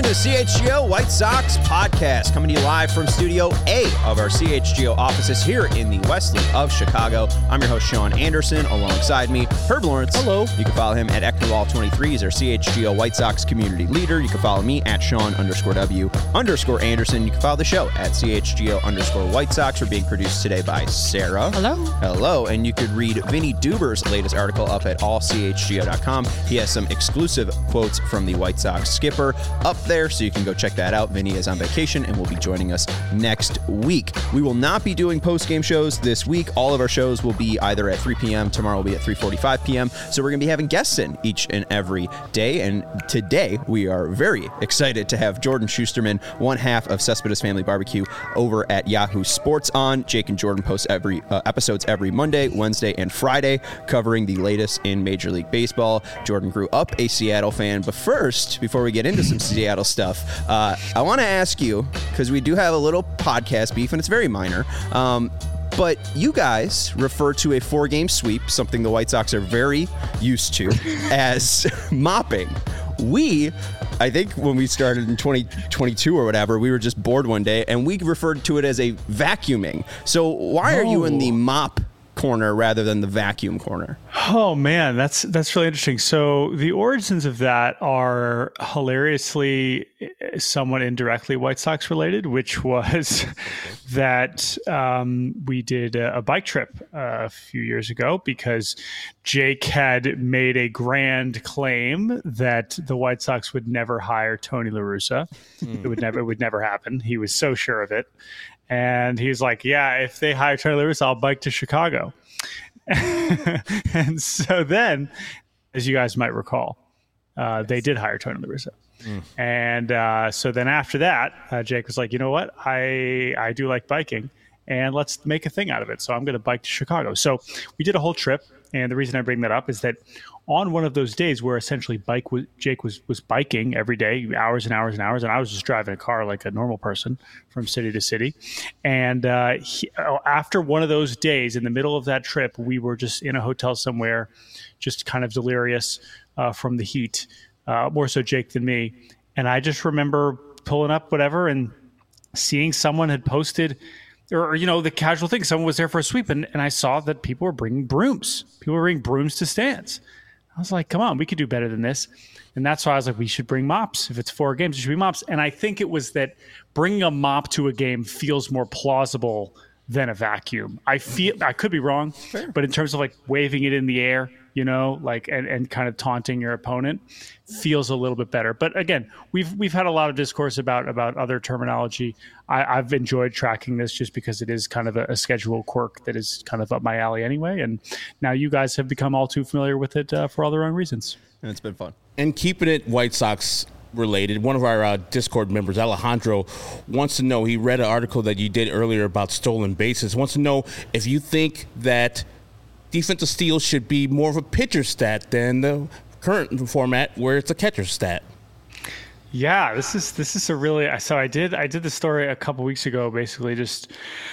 the CHGO White Sox podcast, coming to you live from Studio A of our CHGO offices here in the West Loop of Chicago. I'm your host, Sean Anderson. Alongside me, Herb Lawrence. Hello. You can follow him at Ecknerwall23. He's our CHGO White Sox community leader. You can follow me at Sean_W_Anderson. You can follow the show at CHGO_White Sox. We're being produced today by Sarah. Hello. Hello. And you could read Vinny Duber's latest article up at allchgo.com. He has some exclusive quotes from the White Sox skipper up there, so you can go check that out. Vinny is on vacation and will be joining us next week. We will not be doing post-game shows this week. All of our shows will be either at 3 p.m. Tomorrow will be at 3:45 p.m. So we're going to be having guests in each and every day. And today we are very excited to have Jordan Schusterman, one half of Cespedes Family Barbecue, over at Yahoo Sports on. Jake and Jordan post episodes every Monday, Wednesday, and Friday, covering the latest in Major League Baseball. Jordan grew up a Seattle fan, but first, before we get into some Seattle stuff, I want to ask you, because we do have a little podcast beef, and it's very minor, but you guys refer to a 4-game sweep, something the White Sox are very used to, as mopping. I think when we started in 2022 or whatever, we were just bored one day, and we referred to it as a vacuuming. So why are you in the mop corner rather than the vacuum corner? Oh man, that's really interesting. So the origins of that are hilariously somewhat indirectly White Sox related, which was that we did a bike trip a few years ago because Jake had made a grand claim that the White Sox would never hire Tony La Russa. It would never happen. He was so sure of it. And he's like, yeah, if they hire Tony La Russa, I'll bike to Chicago. And so then, as you guys might recall, they did hire Tony La Russa. And so then after that, Jake was like, you know what? I do like biking, and let's make a thing out of it. So I'm going to bike to Chicago. So we did a whole trip. And the reason I bring that up is that on one of those days where essentially Jake was biking every day, hours and hours and hours, and I was just driving a car like a normal person from city to city. And after one of those days, in the middle of that trip, we were just in a hotel somewhere, just kind of delirious from the heat, more so Jake than me. And I just remember pulling up whatever and seeing someone had posted, or, you know, the casual thing. Someone was there for a sweep, and I saw that people were bringing brooms. People were bringing brooms to stands. I was like, come on, we could do better than this. And that's why I was like, we should bring mops. If it's 4 games, it should be mops. And I think it was that bringing a mop to a game feels more plausible than a vacuum. I could be wrong, but in terms of like waving it in the air, you know, like and kind of taunting your opponent, feels a little bit better. But again, we've had a lot of discourse about other terminology. I've enjoyed tracking this just because it is kind of a schedule quirk that is kind of up my alley anyway. And now you guys have become all too familiar with it for all the wrong reasons. And it's been fun. And keeping it White Sox related, one of our Discord members, Alejandro, wants to know, he read an article that you did earlier about stolen bases, wants to know if you think that defensive steals should be more of a pitcher stat than the current format where it's a catcher stat. Yeah, this is a really, so I did the story a couple weeks ago, basically just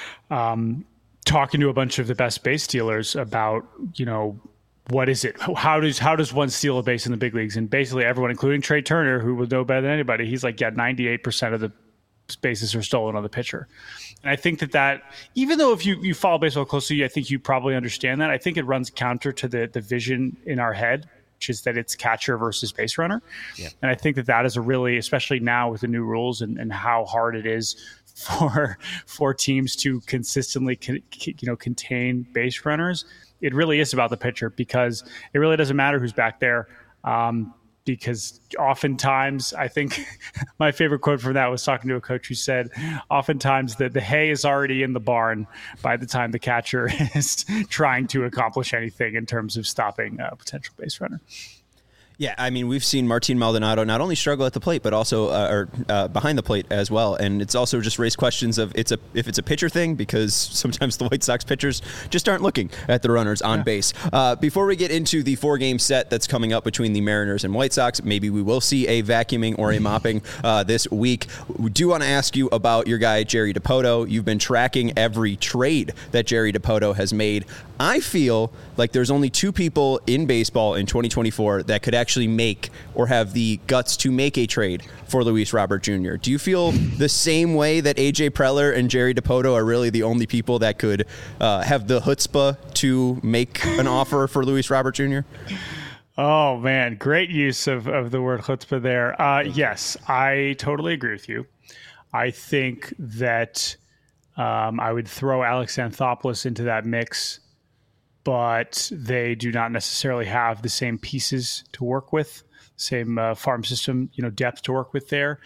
talking to a bunch of the best base stealers about, you know, what is it? How does one steal a base in the big leagues? And basically everyone, including Trey Turner, who would know better than anybody, he's like, yeah, 98% of the bases are stolen on the pitcher. And I think that even though if you follow baseball closely, I think you probably understand that. I think it runs counter to the vision in our head, which is that it's catcher versus base runner. Yeah. And I think that is a really, especially now with the new rules and how hard it is for teams to consistently contain base runners. It really is about the pitcher, because it really doesn't matter who's back there. Because oftentimes, I think my favorite quote from that was talking to a coach who said, oftentimes the hay is already in the barn by the time the catcher is trying to accomplish anything in terms of stopping a potential base runner. Yeah, I mean, we've seen Martin Maldonado not only struggle at the plate, but also behind the plate as well. And it's also just raised questions of if it's a pitcher thing, because sometimes the White Sox pitchers just aren't looking at the runners on base. Before we get into the 4-game set that's coming up between the Mariners and White Sox, maybe we will see a vacuuming or a mopping this week. We do want to ask you about your guy, Jerry Dipoto. You've been tracking every trade that Jerry Dipoto has made. I feel like there's only 2 people in baseball in 2024 that could actually actually make or have the guts to make a trade for Luis Robert Jr.? Do you feel the same way that AJ Preller and Jerry Dipoto are really the only people that could have the chutzpah to make an offer for Luis Robert Jr.? Oh, man. Great use of the word chutzpah there. Yes, I totally agree with you. I think that I would throw Alex Anthopoulos into that mix, but they do not necessarily have the same pieces to work with, same farm system, depth to work with there.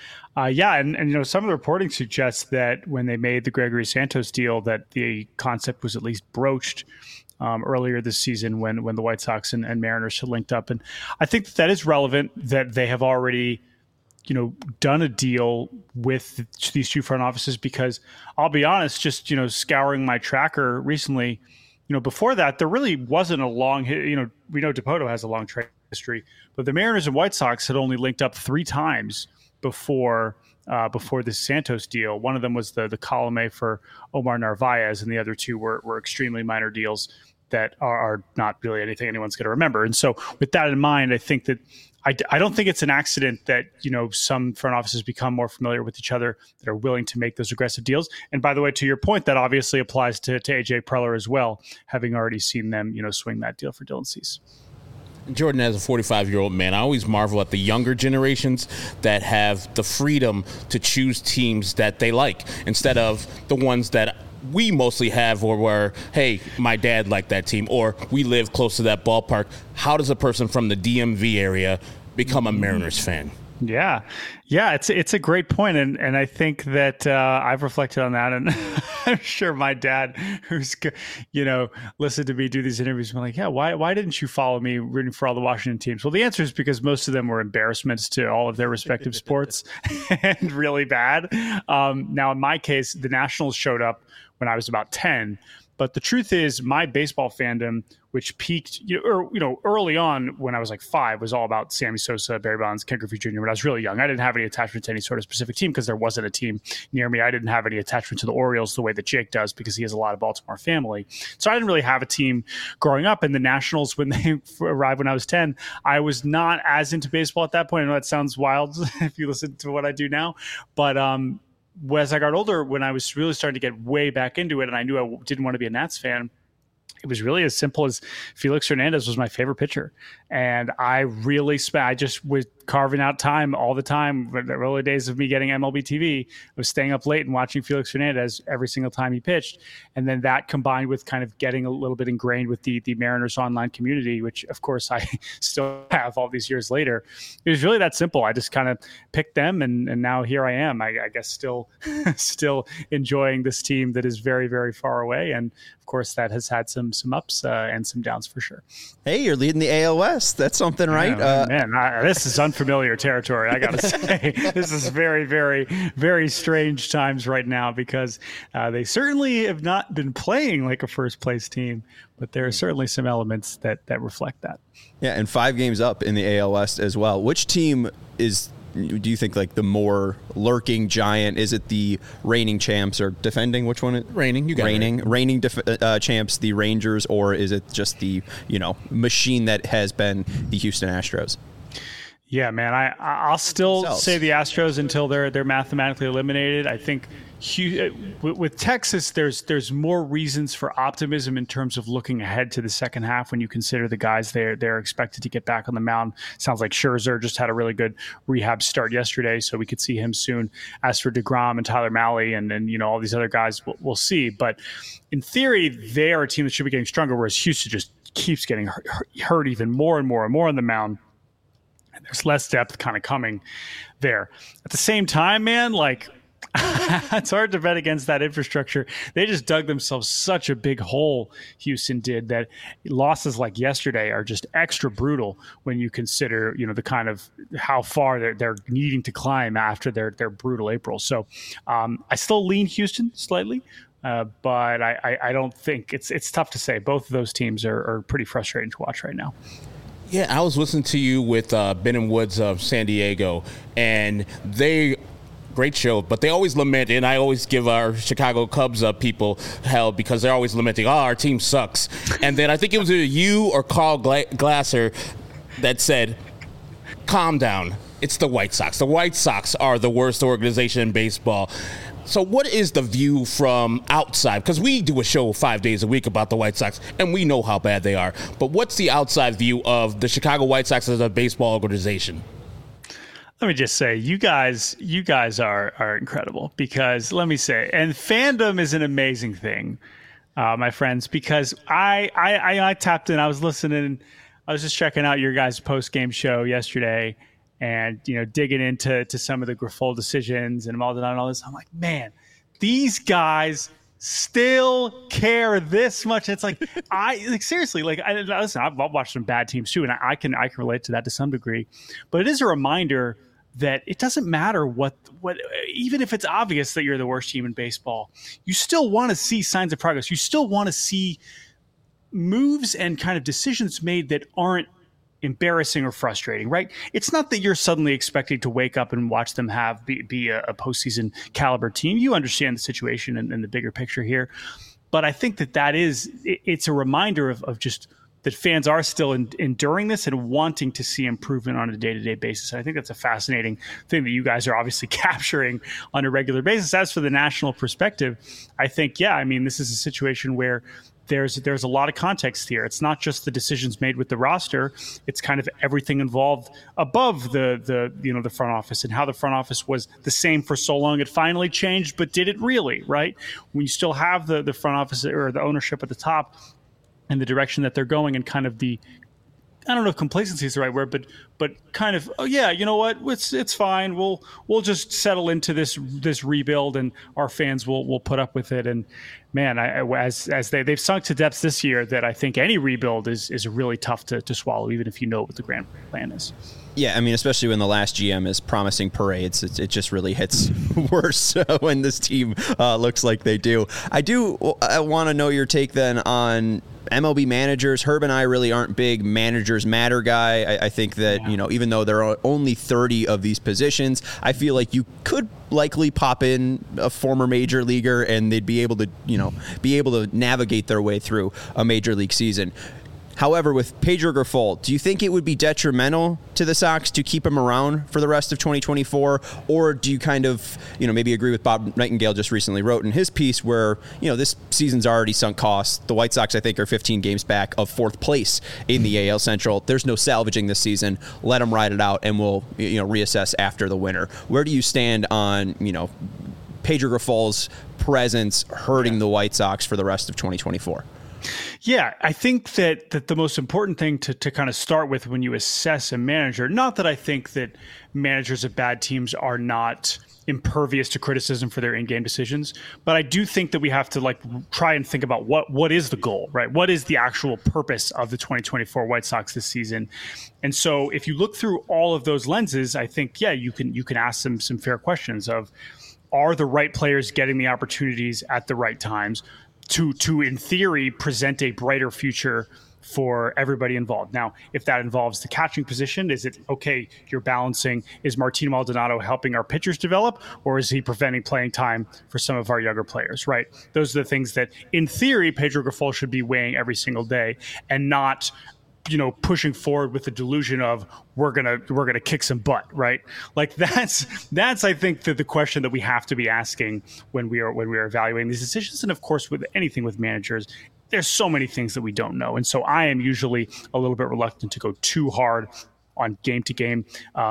And some of the reporting suggests that when they made the Gregory Santos deal, that the concept was at least broached earlier this season when the White Sox and Mariners had linked up. And I think that is relevant that they have already, done a deal with these two front offices, because I'll be honest, just, scouring my tracker recently, before that, there really wasn't a long, we know Dipoto has a long trade history, but the Mariners and White Sox had only linked up 3 times before this Santos deal. One of them was the column A for Omar Narvaez, and the other 2 were extremely minor deals that are not really anything anyone's going to remember. And so with that in mind, I think that I don't think it's an accident that, some front offices become more familiar with each other, that are willing to make those aggressive deals. And by the way, to your point, that obviously applies to AJ Preller as well, having already seen them, swing that deal for Dylan Cease. Jordan, as a 45-year-old man, I always marvel at the younger generations that have the freedom to choose teams that they like instead of the ones that we mostly have, or where, hey, my dad liked that team, or we live close to that ballpark. How does a person from the DMV area become a Mariners fan? Yeah, it's a great point, and I think that I've reflected on that, and I'm sure my dad, who's listened to me do these interviews, been like, yeah, why didn't you follow me rooting for all the Washington teams? Well, the answer is because most of them were embarrassments to all of their respective sports and really bad. Now, in my case, the Nationals showed up when I was about 10. But the truth is, my baseball fandom, which peaked, early on when I was like 5, was all about Sammy Sosa, Barry Bonds, Ken Griffey Jr. When I was really young, I didn't have any attachment to any sort of specific team because there wasn't a team near me. I didn't have any attachment to the Orioles the way that Jake does because he has a lot of Baltimore family. So I didn't really have a team growing up. And the Nationals, when they arrived when I was 10, I was not as into baseball at that point. I know that sounds wild if you listen to what I do now, but as I got older, when I was really starting to get way back into it, and I knew I didn't want to be a Nats fan, it was really as simple as Felix Hernandez was my favorite pitcher. And I really I just was carving out time all the time. The early days of me getting MLB TV, I was staying up late and watching Felix Hernandez every single time he pitched. And then that combined with kind of getting a little bit ingrained with the Mariners online community, which of course I still have all these years later. It was really that simple. I just kind of picked them, and now here I am. I guess still enjoying this team that is very, very far away. And of course that has had some ups and some downs for sure. Hey, you're leading the AL West. That's something, right? This is unfamiliar territory, I got to say. This is very, very, very strange times right now because they certainly have not been playing like a first-place team, but there are certainly some elements that reflect that. Yeah, and 5 games up in the AL West as well. Which team do you think like the more lurking giant? Is it the reigning champs or defending? Which one? Reigning. You got reigning champs, the Rangers, or is it just the machine that has been the Houston Astros? Yeah, man, I'll still say the Astros until they're mathematically eliminated. I think with Texas, there's more reasons for optimism in terms of looking ahead to the second half when you consider the guys they're expected to get back on the mound. Sounds like Scherzer just had a really good rehab start yesterday, so we could see him soon. As for DeGrom and Tyler Mahle and all these other guys, we'll see. But in theory, they are a team that should be getting stronger, whereas Houston just keeps getting hurt even more and more and more on the mound. And there's less depth kind of coming there. At the same time, man, it's hard to bet against that infrastructure. They just dug themselves such a big hole, Houston did, that losses like yesterday are just extra brutal when you consider, the kind of how far they're needing to climb after their brutal April. So I still lean Houston slightly, but I don't think it's tough to say. Both of those teams are pretty frustrating to watch right now. Yeah, I was listening to you with Ben and Woods of San Diego, and great show, but they always lament, and I always give our Chicago Cubs people hell because they're always lamenting, our team sucks. And then I think it was either you or Carl Glasser that said, calm down. It's the White Sox. The White Sox are the worst organization in baseball. So what is the view from outside? Because we do a show 5 days a week about the White Sox, and we know how bad they are. But what's the outside view of the Chicago White Sox as a baseball organization? Let me just say, you guys are incredible, because let me say, and fandom is an amazing thing, my friends, because I tapped in, I was listening, I was just checking out your guys' post-game show yesterday, and, digging into some of the Grifol decisions and Maldonado and all this. I'm like, man, these guys still care this much. It's like, seriously, listen, I've watched some bad teams too, and I can relate to that to some degree, but it is a reminder that it doesn't matter what even if it's obvious that you're the worst team in baseball, you still want to see signs of progress. You still want to see moves and kind of decisions made that aren't embarrassing or frustrating, right? It's not that you're suddenly expecting to wake up and watch them be a postseason caliber team. You understand the situation and the bigger picture here. But I think it's a reminder of just that fans are still enduring this and wanting to see improvement on a day-to-day basis. And I think that's a fascinating thing that you guys are obviously capturing on a regular basis. As for the national perspective, I think, this is a situation where there's a lot of context here. It's not just the decisions made with the roster. It's kind of everything involved above the front office, and how the front office was the same for so long. It finally changed, but did it really, right? When you still have the front office or the ownership at the top and the direction that they're going, and kind of I don't know if complacency is the right word, but kind of, oh yeah, you know what? It's fine. We'll just settle into this rebuild, and our fans will put up with it. And man, as they've sunk to depths this year, that I think any rebuild is really tough to swallow, even if you know what the grand plan is. Yeah, especially when the last GM is promising parades, it just really hits worse when this team looks like they do. I want to know your take then on MLB managers. Herb and I really aren't big managers matter guy. I think that, even though there are only 30 of these positions, I feel like you could likely pop in a former major leaguer and they'd be able to navigate their way through a major league season. However, with Pedro Grifol, do you think it would be detrimental to the Sox to keep him around for the rest of 2024? Or do you kind of, maybe agree with Bob Nightingale just recently wrote in his piece where, this season's already sunk costs. The White Sox, I think, are 15 games back of fourth place in the AL Central. There's no salvaging this season. Let them ride it out, and we'll, reassess after the winter. Where do you stand on, Pedro Grifol's presence hurting the White Sox for the rest of 2024? Yeah, I think that the most important thing to kind of start with when you assess a manager, not that I think that managers of bad teams are not impervious to criticism for their in-game decisions, but I do think that we have to try and think about what is the goal, right? What is the actual purpose of the 2024 White Sox this season? And so if you look through all of those lenses, I think, you can ask some fair questions of, are the right players getting the opportunities at the right times to in theory present a brighter future for everybody involved? Now, if that involves the catching position, is it okay, you're balancing, is Martin Maldonado helping our pitchers develop, or is he preventing playing time for some of our younger players, right? Those are the things that in theory Pedro Grifol should be weighing every single day, and not pushing forward with the delusion of we're gonna kick some butt, right? That's I think the question that we have to be asking when we are evaluating these decisions. And of course, with anything with managers, there's so many things that we don't know, and so I am usually a little bit reluctant to go too hard on game to game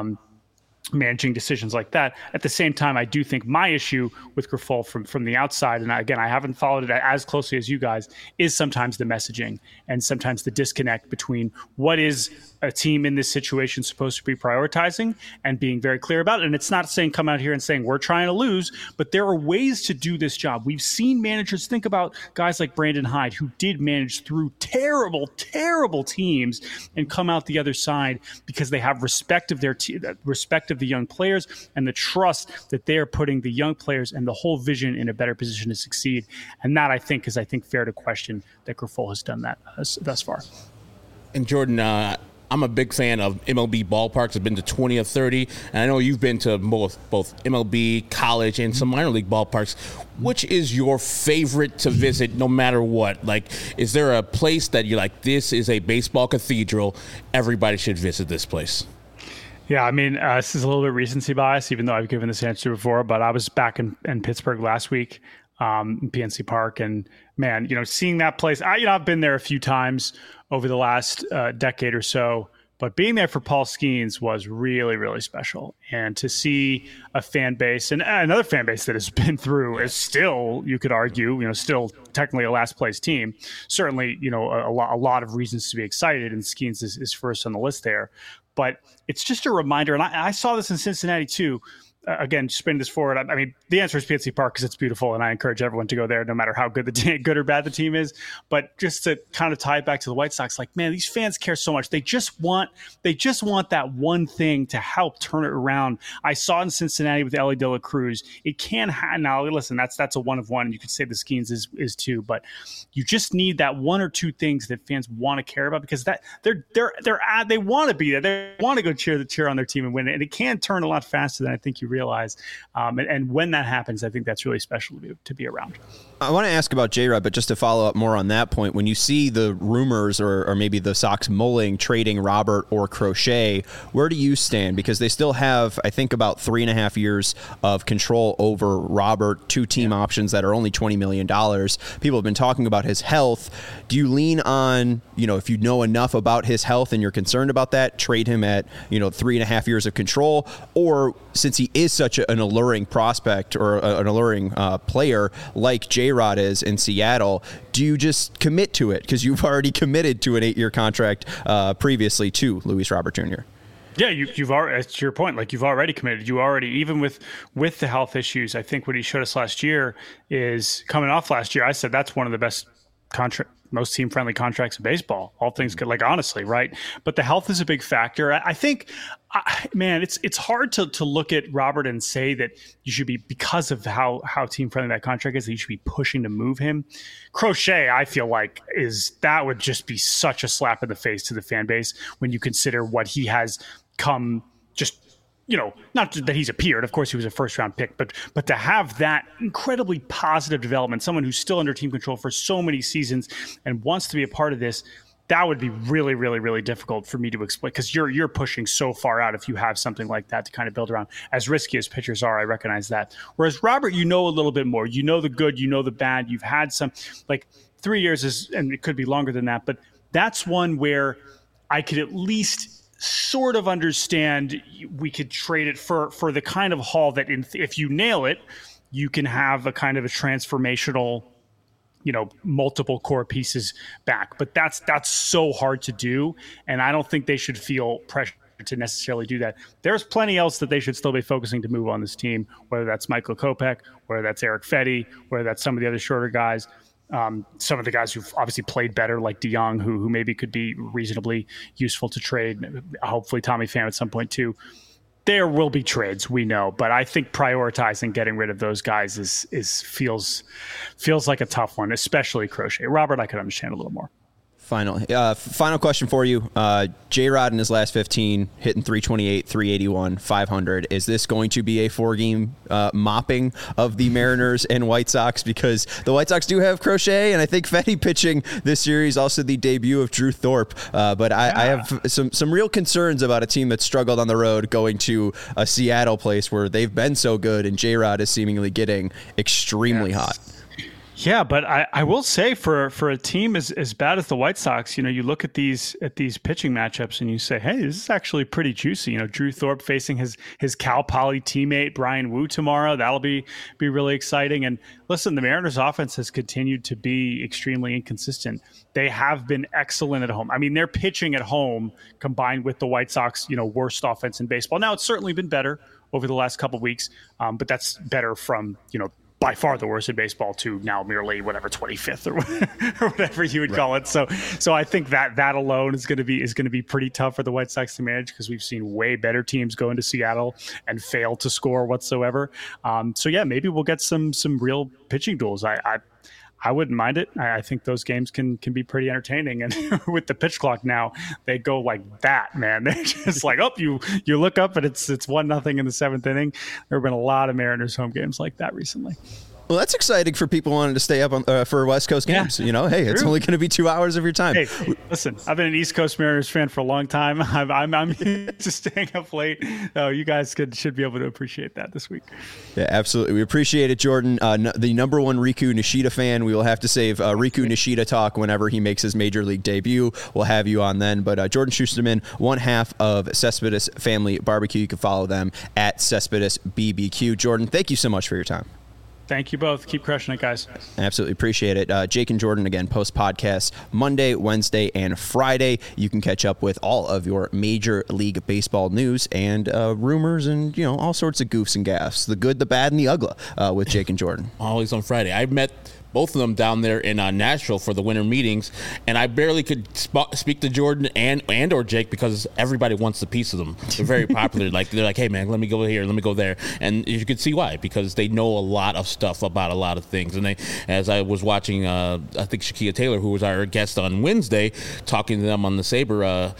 managing decisions like that. At the same time, I do think my issue with Grifol from the outside, and again, I haven't followed it as closely as you guys, is sometimes the messaging and sometimes the disconnect between what is a team in this situation supposed to be prioritizing and being very clear about it. And it's not saying come out here and saying we're trying to lose, but there are ways to do this job. We've seen managers, think about guys like Brandon Hyde, who did manage through terrible, terrible teams and come out the other side because they have respect of their respect of the young players and the trust that they are putting the young players and the whole vision in a better position to succeed. And that, I think, is fair to question that Grifol has done that thus far. And Jordan, I'm a big fan of MLB ballparks. I've been to 20 of 30, and I know you've been to both MLB, college, and some minor league ballparks. Which is your favorite to visit no matter what? Is there a place that you're like, this is a baseball cathedral, everybody should visit this place? Yeah, I mean, this is a little bit recency bias, even though I've given this answer before, but I was back in Pittsburgh last week, in PNC Park, and man, seeing that place, I've been there a few times over the last decade or so, but being there for Paul Skeens was really, really special. And to see a fan base, and another fan base that has been through, is still, you could argue, still technically a last place team. Certainly, a lot of reasons to be excited, and Skeens is first on the list there. But it's just a reminder, and I saw this in Cincinnati too. Again, just bringing this forward, I mean, the answer is PNC Park because it's beautiful, and I encourage everyone to go there, no matter how good good or bad the team is. But just to kind of tie it back to the White Sox, like, man, these fans care so much. They just want that one thing to help turn it around. I saw in Cincinnati with Elly De La Cruz. It can now listen. That's a one of one. You could say the Skeens is two, but you just need that one or two things that fans want to care about, because that they want to be there. They want to go cheer on their team and win it, and it can turn a lot faster than I think you realize. And when that happens, I think that's really special to be around. I want to ask about J-Rod, but just to follow up more on that point, when you see the rumors or maybe the Sox mulling trading Robert or Crochet, where do you stand? Because they still have, I think, about 3.5 years of control over Robert, two team options that are only $20 million. People have been talking about his health. Do you lean on, if you know enough about his health and you're concerned about that, trade him at, 3.5 years of control? Or since he is such an alluring prospect or an alluring player like J-Rod is in Seattle, do you just commit to it? Because you've already committed to an 8-year contract previously to Luis Robert Jr. Yeah, you've already, to your point, like, you've already committed. You already, even with the health issues, I think what he showed us last year is, coming off last year, I said that's one of the best most team-friendly contracts in baseball, all things good, like, honestly, right? But the health is a big factor. I think, man, it's hard to look at Robert and say that you should be, because of how team-friendly that contract is, that you should be pushing to move him. Crochet, I feel like, that would just be such a slap in the face to the fan base when you consider what he has come, just, not that he's appeared. Of course, he was a first-round pick, but to have that incredibly positive development, someone who's still under team control for so many seasons and wants to be a part of this, that would be really, really, really difficult for me to explain, because you're pushing so far out if you have something like that to kind of build around. As risky as pitchers are, I recognize that. Whereas Robert, a little bit more. The good, the bad. You've had some, like, 3 years and it could be longer than that, but that's one where I could at least sort of understand we could trade it for the kind of haul that if you nail it, you can have a kind of a transformational, multiple core pieces back. But that's so hard to do. And I don't think they should feel pressure to necessarily do that. There's plenty else that they should still be focusing to move on this team, whether that's Michael Kopech, whether that's Erick Fedde, whether that's some of the other shorter guys. Some of the guys who've obviously played better, like DeYoung, who maybe could be reasonably useful to trade. Hopefully Tommy Pham at some point too. There will be trades, we know, but I think prioritizing getting rid of those guys feels like a tough one, especially Crochet. Robert, I could understand a little more. Final question for you. J-Rod in his last 15, hitting 328, 381, 500. Is this going to be a 4-game mopping of the Mariners and White Sox? Because the White Sox do have Crochet, and I think Fedde pitching this series, also the debut of Drew Thorpe. But I have some real concerns about a team that struggled on the road going to a Seattle place where they've been so good, and J-Rod is seemingly getting extremely hot. Yeah, but I will say for a team as bad as the White Sox, you look at these pitching matchups and you say, hey, this is actually pretty juicy. Drew Thorpe facing his Cal Poly teammate Bryan Woo tomorrow. That'll be really exciting. And listen, the Mariners offense has continued to be extremely inconsistent. They have been excellent at home. I mean, they're pitching at home combined with the White Sox, worst offense in baseball. Now, it's certainly been better over the last couple of weeks, but that's better from, by far the worst in baseball to now merely 25th or whatever you would call it. So I think that alone is going to be pretty tough for the White Sox to manage, because we've seen way better teams go into Seattle and fail to score whatsoever. So yeah, maybe we'll get some real pitching duels. I wouldn't mind it. I think those games can be pretty entertaining. And with the pitch clock now, they go like that, man. They're just like, you look up and it's 1-0 in the 7th inning. There have been a lot of Mariners home games like that recently. Well, that's exciting for people wanting to stay up on, for West Coast games. You know, hey, it's only going to be 2 hours of your time. Hey, listen, I've been an East Coast Mariners fan for a long time. I'm used to staying up late. You guys should be able to appreciate that this week. Yeah, absolutely. We appreciate it, Jordan. The number one Riku Nishida fan. We will have to save Riku Nishida talk whenever he makes his Major League debut. We'll have you on then. But Jordan Schusterman, one half of Cespedes Family Barbecue. You can follow them at Cespedes BBQ. Jordan, thank you so much for your time. Thank you both. Keep crushing it, guys. Absolutely appreciate it. Jake and Jordan, again, post podcasts Monday, Wednesday, and Friday. You can catch up with all of your Major League Baseball news and rumors and, you know, all sorts of goofs and gaffes, the good, the bad, and the ugly with Jake and Jordan. Always on Friday. I met both of them down there in Nashville for the winter meetings, and I barely could speak to Jordan and or Jake because everybody wants a piece of them. They're very popular. They're like, hey man, let me go here, let me go there, and you could see why, because they know a lot of stuff about a lot of things. And as I was watching, I think Shakia Taylor, who was our guest on Wednesday, talking to them on the Sabre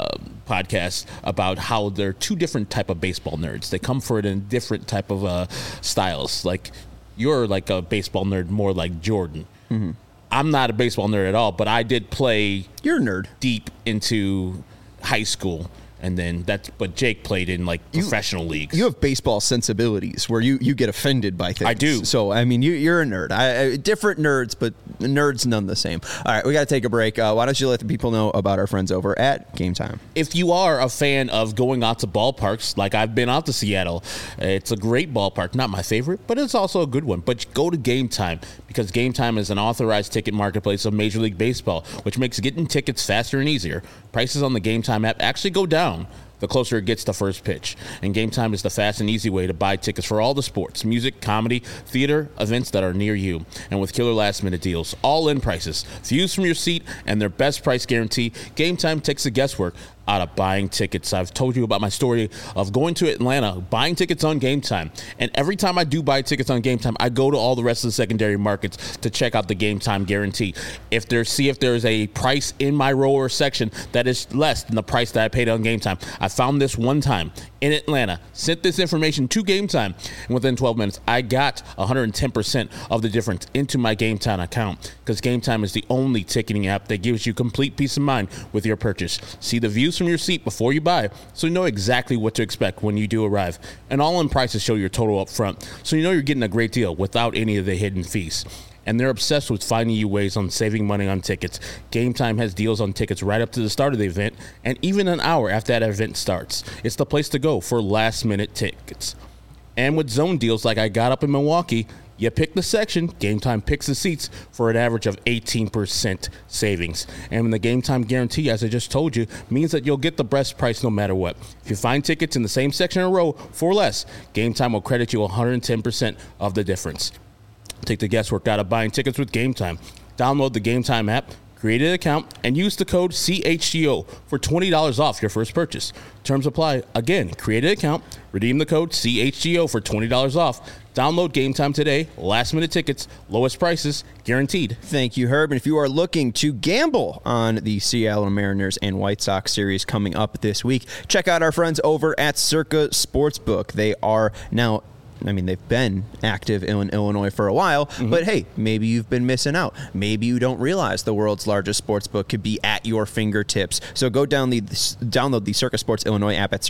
podcast about how they're two different type of baseball nerds. They come for it in different type of styles. Like, you're like a baseball nerd, more like Jordan. Mm-hmm. I'm not a baseball nerd at all, but I did play. You're a nerd. Deep into high school. And then but Jake played in like professional leagues. You have baseball sensibilities where you get offended by things. I do. So, I mean, you're a nerd. Different nerds, but nerds none the same. All right, we got to take a break. Why don't you let the people know about our friends over at Game Time? If you are a fan of going out to ballparks, like I've been out to Seattle, it's a great ballpark. Not my favorite, but it's also a good one. But go to Game Time, because Game Time is an authorized ticket marketplace of Major League Baseball, which makes getting tickets faster and easier. Prices on the Game Time app actually go down the closer it gets to first pitch. And Game Time is the fast and easy way to buy tickets for all the sports, music, comedy, theater, events that are near you. And with killer last-minute deals, all-in prices, views from your seat, and their best price guarantee, Game Time takes the guesswork out of buying tickets. I've told you about my story of going to Atlanta, buying tickets on Game Time. And every time I do buy tickets on Game Time, I go to all the rest of the secondary markets to check out the Game Time guarantee. See if there's a price in my row or section that is less than the price that I paid on Game Time. I found this one time in Atlanta, sent this information to Game Time, and within 12 minutes, I got 110% of the difference into my Game Time account, because Game Time is the only ticketing app that gives you complete peace of mind with your purchase. See the views from your seat before you buy, so you know exactly what to expect when you do arrive. And all-in prices show your total up front, so you know you're getting a great deal without any of the hidden fees. And they're obsessed with finding you ways on saving money on tickets. Game Time has deals on tickets right up to the start of the event, and even an hour after that event starts. It's the place to go for last-minute tickets. And with zone deals like I got up in Milwaukee, you pick the section, Game Time picks the seats for an average of 18% savings. And the Game Time guarantee, as I just told you, means that you'll get the best price no matter what. If you find tickets in the same section or row for less, Game Time will credit you 110% of the difference. Take the guesswork out of buying tickets with Game Time. Download the Game Time app, create an account, and use the code CHGO for $20 off your first purchase. Terms apply. Again, create an account, redeem the code CHGO for $20 off. Download Game Time today. Last-minute tickets, lowest prices, guaranteed. Thank you, Herb. And if you are looking to gamble on the Seattle Mariners and White Sox series coming up this week, check out our friends over at Circa Sportsbook. They are now... they've been active in Illinois for a while, but hey, maybe you've been missing out. Maybe you don't realize the world's largest sportsbook could be at your fingertips. So go download the Circa Sports Illinois app at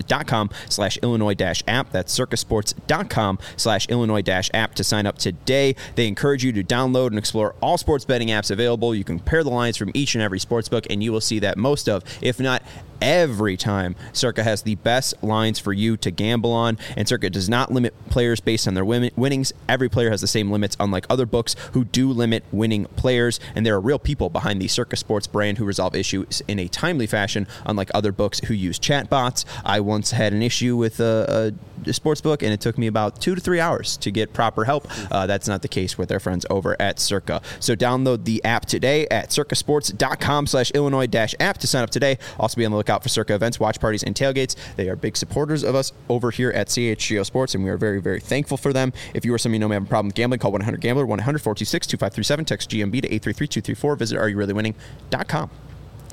circasports.com/Illinois-app. That's circasports.com/Illinois-app to sign up today. They encourage you to download and explore all sports betting apps available. You can pair the lines from each and every sportsbook, and you will see that most of, if not every time, Circa has the best lines for you to gamble on, and Circa does not limit players based on their winnings. Every player has the same limits, unlike other books who do limit winning players, and there are real people behind the Circa Sports brand who resolve issues in a timely fashion, unlike other books who use chatbots. I once had an issue with a sports book, and it took me about 2 to 3 hours to get proper help. That's not the case with their friends over at Circa. So download the app today at circasports.com/Illinois-app to sign up today. Also be on the lookout for Circa events, watch parties, and tailgates. They are big supporters of us over here at CHGO Sports, and we are very, very thankful for them. If you or somebody you know may have a problem with gambling, call 1-800-GAMBLER, 1-800-426-2537, text GMB to 833-234. Visit AreYouReallyWinning.com.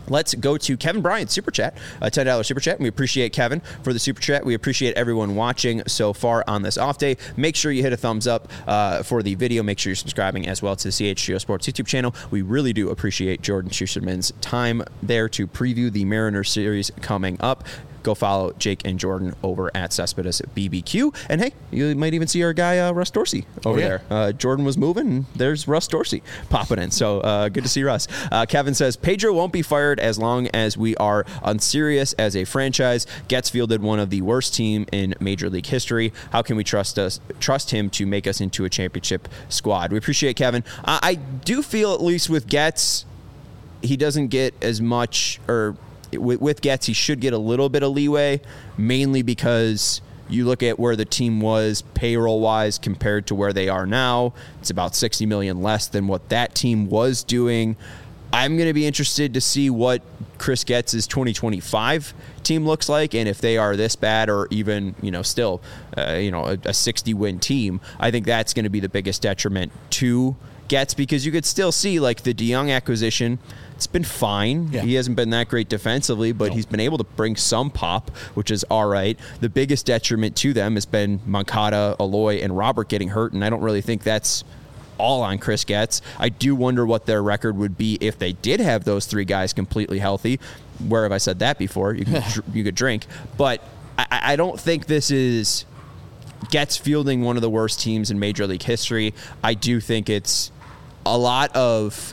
Let's go to Kevin Bryant's Super Chat, a $10 Super Chat. We appreciate Kevin for the Super Chat. We appreciate everyone watching so far on this off day. Make sure you hit a thumbs up for the video. Make sure you're subscribing as well to the CHGO Sports YouTube channel. We really do appreciate Jordan Schusterman's time there to preview the Mariners series coming up. Go follow Jake and Jordan over at Cespedes BBQ. And hey, you might even see our guy, Russ Dorsey, over there. Jordan was moving, and there's Russ Dorsey popping in. So good to see Russ. Kevin says, Pedro won't be fired as long as we are unserious as a franchise. Gets fielded one of the worst team in Major League history. How can we trust him to make us into a championship squad? We appreciate Kevin. I do feel, at least with Getz, he doesn't get as much, or with Getz, he should get a little bit of leeway, mainly because you look at where the team was payroll-wise compared to where they are now. It's about $60 million less than what that team was doing. I'm going to be interested to see what Chris Getz's 2025 team looks like, and if they are this bad, or even, still, a 60-win team. I think that's going to be the biggest detriment to Getz, because you could still see, like, the DeYoung acquisition. It's been fine. Yeah. He hasn't been that great defensively, but he's been able to bring some pop, which is all right. The biggest detriment to them has been Moncada, Eloy, and Robert getting hurt, and I don't really think that's all on Chris Getz. I do wonder what their record would be if they did have those three guys completely healthy. Where have I said that before? You could drink. But I don't think this is Getz fielding one of the worst teams in Major League history. I do think it's a lot of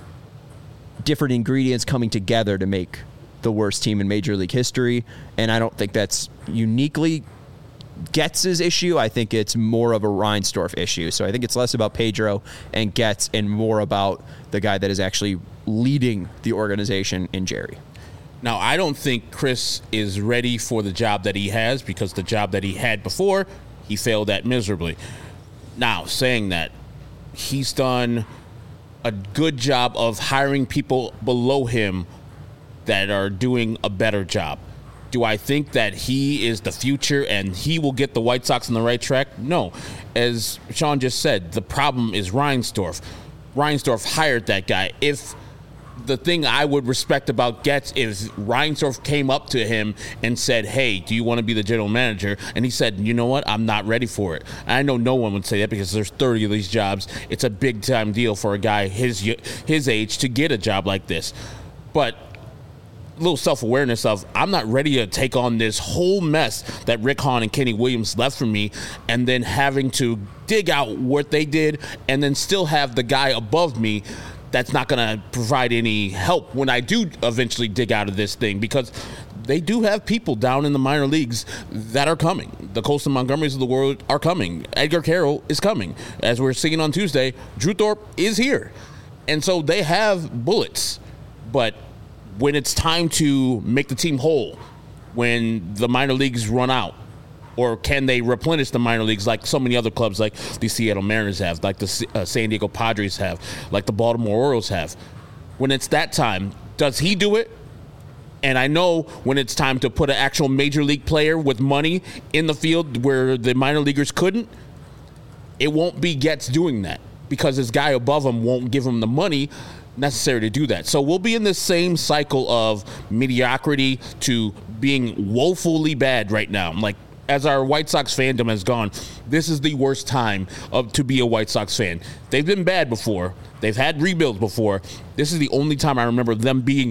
different ingredients coming together to make the worst team in Major League history, and I don't think that's uniquely Getz's issue. I think it's more of a Reinsdorf issue. So I think it's less about Pedro and Getz and more about the guy that is actually leading the organization in Jerry. Now, I don't think Chris is ready for the job that he has, because the job that he had before, he failed at miserably. Now, saying that, he's done a good job of hiring people below him that are doing a better job. Do I think that he is the future and he will get the White Sox on the right track? No. As Sean just said, the problem is Reinsdorf. Reinsdorf hired that guy. If the thing I would respect about Getz is Reinsdorf came up to him and said, hey, do you want to be the general manager? And he said, you know what? I'm not ready for it. I know no one would say that, because there's 30 of these jobs. It's a big time deal for a guy his age to get a job like this. But a little self-awareness of, I'm not ready to take on this whole mess that Rick Hahn and Kenny Williams left for me, and then having to dig out what they did and then still have the guy above me that's not going to provide any help when I do eventually dig out of this thing, because they do have people down in the minor leagues that are coming. The Colson Montgomerys of the world are coming. Edgar Carroll is coming. As we're seeing on Tuesday, Drew Thorpe is here. And so they have bullets. But when it's time to make the team whole, when the minor leagues run out, or can they replenish the minor leagues like so many other clubs, like the Seattle Mariners have, like the San Diego Padres have, like the Baltimore Orioles have? When it's that time, does he do it? And I know when it's time to put an actual major league player with money in the field where the minor leaguers couldn't, it won't be Getz doing that, because his guy above him won't give him the money necessary to do that. So we'll be in this same cycle of mediocrity to being woefully bad right now. Like, as our White Sox fandom has gone, this is the worst time to be a White Sox fan. They've been bad before. They've had rebuilds before. This is the only time I remember them being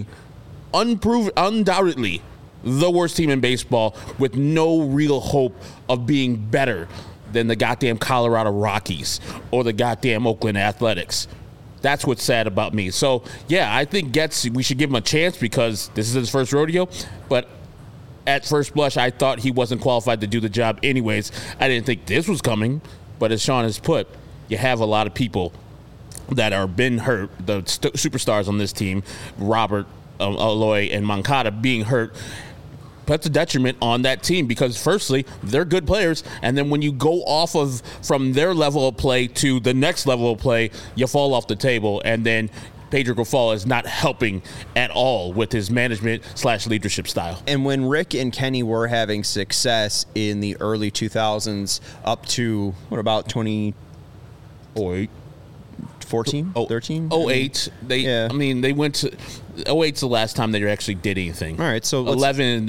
undoubtedly the worst team in baseball, with no real hope of being better than the goddamn Colorado Rockies or the goddamn Oakland Athletics. That's what's sad about me. So, yeah, I think Getz, we should give him a chance, because this is his first rodeo, but at first blush, I thought he wasn't qualified to do the job anyways. I didn't think this was coming. But as Sean has put, you have a lot of people that are been hurt. The superstars on this team, Robert, Eloy, and Moncada, being hurt, puts a detriment on that team, because firstly, they're good players, and then when you go off of from their level of play to the next level of play, you fall off the table, and then Pedro Grifol is not helping at all with his management/leadership style. And when Rick and Kenny were having success in the early 2000s up to, what about 2008? 14, 13? 08. I mean, they went to 08's the last time they actually did anything. All right, so 11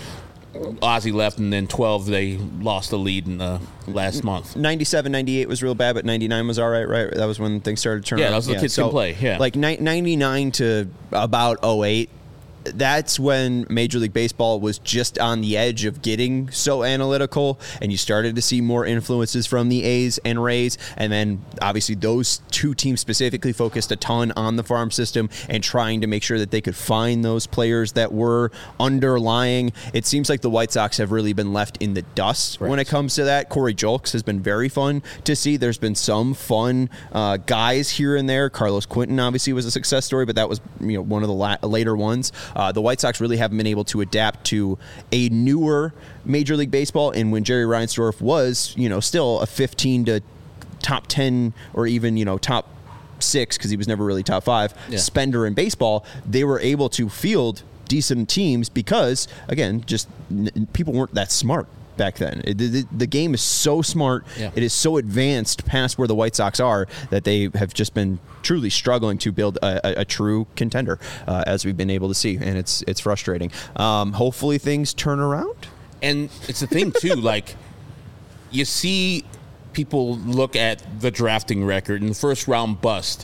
Ozzie left, and then 12 they lost the lead in the last month. 97, 98 was real bad, but 99 was all right, right? That was when things started to turn around. Yeah, that was the kids can play, yeah. Like 99 to about 08, that's when Major League Baseball was just on the edge of getting so analytical, and you started to see more influences from the A's and Rays, and then obviously those two teams specifically focused a ton on the farm system and trying to make sure that they could find those players that were underlying. It seems like the White Sox have really been left in the dust when it comes to that. Corey Julks has been very fun to see. There's been some fun guys here and there. Carlos Quentin obviously was a success story, but that was one of the later ones. The White Sox really haven't been able to adapt to a newer Major League Baseball, and when Jerry Reinsdorf was, still a 15 to top 10 or even, top 6, because he was never really top 5 spender in baseball, they were able to field decent teams because, again, just people weren't that smart back then. The game is so smart. Yeah. It is so advanced past where the White Sox are that they have just been truly struggling to build a true contender, as we've been able to see, and it's frustrating. Hopefully things turn around. And it's the thing too, like you see people look at the drafting record and the first round bust,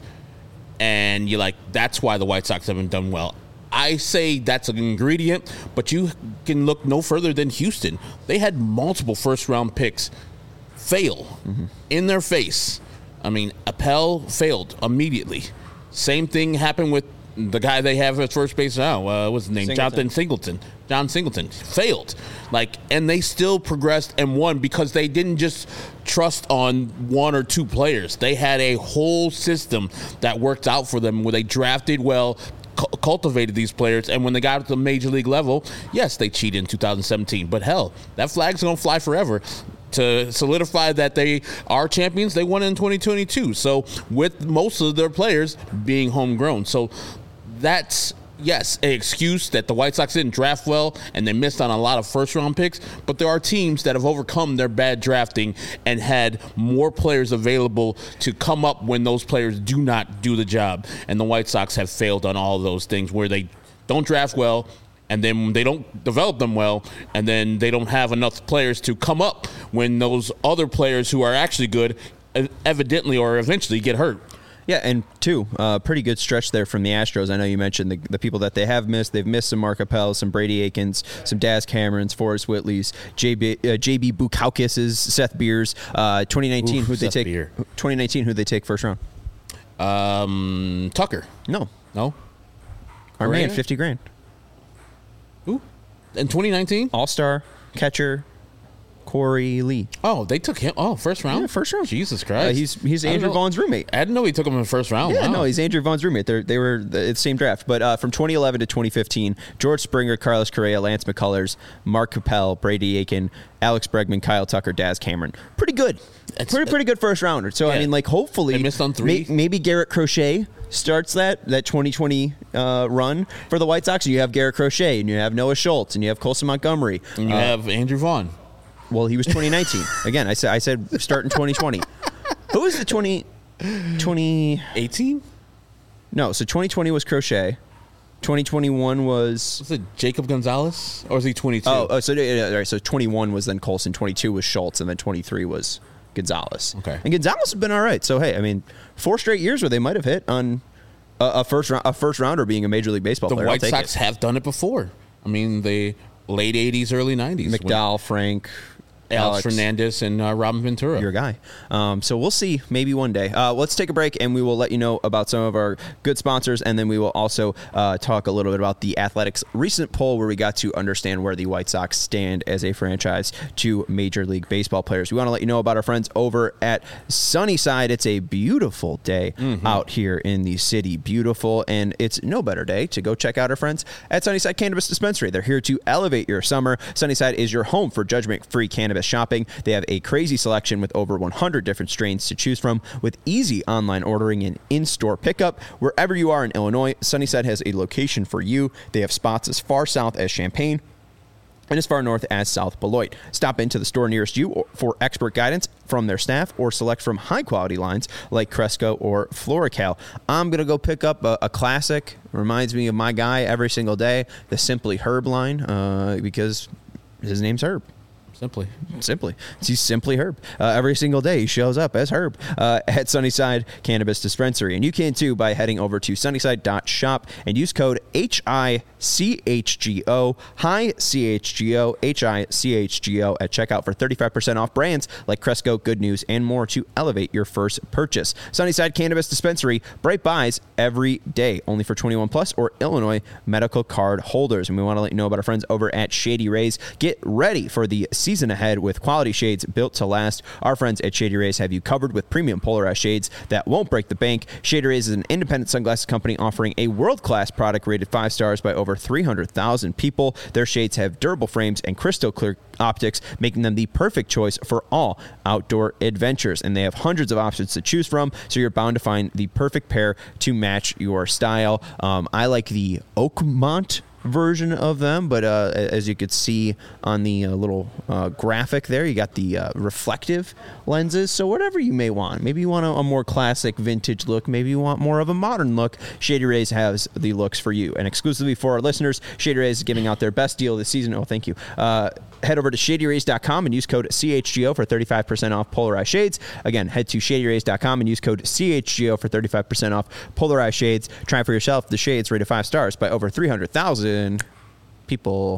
and you're like, that's why the White Sox haven't done well. I say that's an ingredient, but you can look no further than Houston. They had multiple first-round picks fail in their face. I mean, Appel failed immediately. Same thing happened with the guy they have at first base now. What's his name? John Singleton failed. And they still progressed and won because they didn't just trust on one or two players. They had a whole system that worked out for them where they drafted well, cultivated these players, and when they got to the major league level, yes, they cheated in 2017, but hell, that flag's gonna fly forever. To solidify that they are champions, they won in 2022, so with most of their players being homegrown. So that's, yes, an excuse that the White Sox didn't draft well and they missed on a lot of first-round picks, but there are teams that have overcome their bad drafting and had more players available to come up when those players do not do the job. And the White Sox have failed on all of those things where they don't draft well, and then they don't develop them well, and then they don't have enough players to come up when those other players who are actually good evidently or eventually get hurt. Yeah, and pretty good stretch there from the Astros. I know you mentioned the people that they have missed. They've missed some Mark Appel, some Brady Aikens, some Daz Camerons, Forrest Whitleys, JB Bukowskis, Seth Beers. 2019, who'd they take? 2019, who'd they take first round? Tucker. No. Our Correa? man, $50,000. Who? In 2019? All-star catcher Corey Lee. Oh, they took him. Oh, first round? Yeah, first round. Jesus Christ. He's Andrew Vaughn's roommate. I didn't know he took him in the first round. Yeah, wow. No, he's Andrew Vaughn's roommate. They were the same draft. But from 2011 to 2015, George Springer, Carlos Correa, Lance McCullers, Mark Capel, Brady Aiken, Alex Bregman, Kyle Tucker, Daz Cameron. Pretty good. Pretty good first rounder. So, yeah. I mean, hopefully. They missed on 3. Maybe Garrett Crochet starts that 2020 run for the White Sox. You have Garrett Crochet, and you have Noah Schultz, and you have Colson Montgomery. And you have Andrew Vaughn. Well, he was 2019. Again, I said start in 2020. Who was the 2018? No, so 2020 was Crochet. 2021 was it Jacob Gonzalez, or was he 22? So 21 was then Colson, 22 was Schultz, and then 23 was Gonzalez. Okay. And Gonzalez has been all right. So hey, I mean, 4 straight years where they might have hit on a first rounder being a Major League Baseball player. The White Sox have done it before. I mean, the late 80s, early 90s. McDowell, Frank, Alex Fernandez, and Robin Ventura. Your guy. So we'll see. Maybe one day. Let's take a break, and we will let you know about some of our good sponsors, and then we will also talk a little bit about the Athletics recent poll where we got to understand where the White Sox stand as a franchise to Major League Baseball players. We want to let you know about our friends over at Sunnyside. It's a beautiful day out here in the city. Beautiful, and it's no better day to go check out our friends at Sunnyside Cannabis Dispensary. They're here to elevate your summer. Sunnyside is your home for judgment-free cannabis shopping. They have a crazy selection with over 100 different strains to choose from, with easy online ordering and in-store pickup. Wherever you are in Illinois, Sunnyside has a location for you. They have spots as far south as Champaign, and as far north as South Beloit. Stop into the store nearest you for expert guidance from their staff or select from high-quality lines like Cresco or Florical. I'm going to go pick up a classic. Reminds me of my guy every single day, the Simply Herb line, because his name's Herb. Simply. He's Simply Herb. Every single day he shows up as Herb at Sunnyside Cannabis Dispensary. And you can too by heading over to sunnyside.shop and use code HICHGO, HICHGO at checkout for 35% off brands like Cresco, Good News, and more to elevate your first purchase. Sunnyside Cannabis Dispensary, bright buys every day, only for 21 plus or Illinois medical card holders. And we want to let you know about our friends over at Shady Rays. Get ready for the season ahead with quality shades built to last. Our friends at Shady Rays have you covered with premium polarized shades that won't break the bank. Shady Rays is an independent sunglasses company offering a world-class product rated 5 stars by over 300,000 people. Their shades have durable frames and crystal clear optics, making them the perfect choice for all outdoor adventures. And they have hundreds of options to choose from, so you're bound to find the perfect pair to match your style. I like the Oakmont version of them, but as you could see on the little graphic there, you got the reflective lenses. So whatever you may want, maybe you want a more classic vintage look, maybe you want more of a modern look, Shady Rays has the looks for you. And exclusively for our listeners, Shady Rays is giving out their best deal this season. Oh, thank you. Head over to shadyrays.com and use code CHGO for 35% off polarized shades. Again, head to shadyrays.com and use code CHGO for 35% off polarized shades. Try for yourself the shades rated 5 stars by over 300,000 people.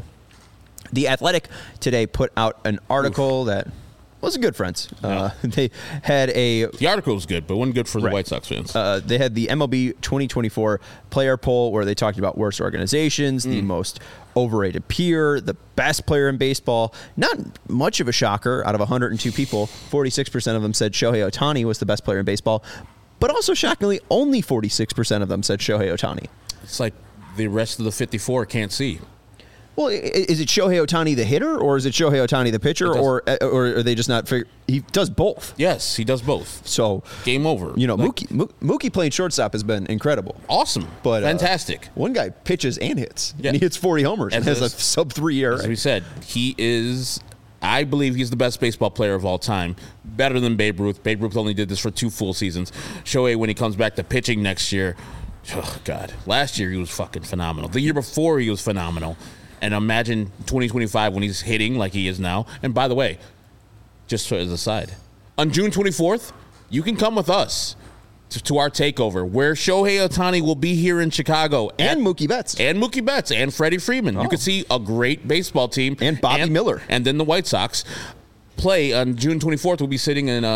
The Athletic today put out an article that wasn't good, friends. They had the article was good, but wasn't good for the White Sox fans. They had the MLB 2024 player poll where they talked about worst organizations, the most overrated peer, the best player in baseball. Not much of a shocker. Out of 102 people, 46% of them said Shohei Ohtani was the best player in baseball. But also shockingly, only 46% of them said Shohei Ohtani. It's like the rest of the 54 can't see. Well, is it Shohei Ohtani the hitter, or is it Shohei Ohtani the pitcher, or are they just not figure? He does both. Yes, he does both. So game over. You know, Mookie playing shortstop has been incredible, awesome, but fantastic. One guy pitches and hits, and he hits 40 homers and has a sub-3 ERA. As we said, he is. I believe he's the best baseball player of all time. Better than Babe Ruth. Babe Ruth only did this for 2 full seasons. Shohei, when he comes back to pitching next year, oh God, last year he was fucking phenomenal. The year before he was phenomenal. And imagine 2025 when he's hitting like he is now. And by the way, just as a side, on June 24th, you can come with us to our takeover where Shohei Ohtani will be here in Chicago. And Mookie Betts. And Freddie Freeman. You can see a great baseball team. And Bobby Miller. And then the White Sox play on June 24th. We'll be sitting in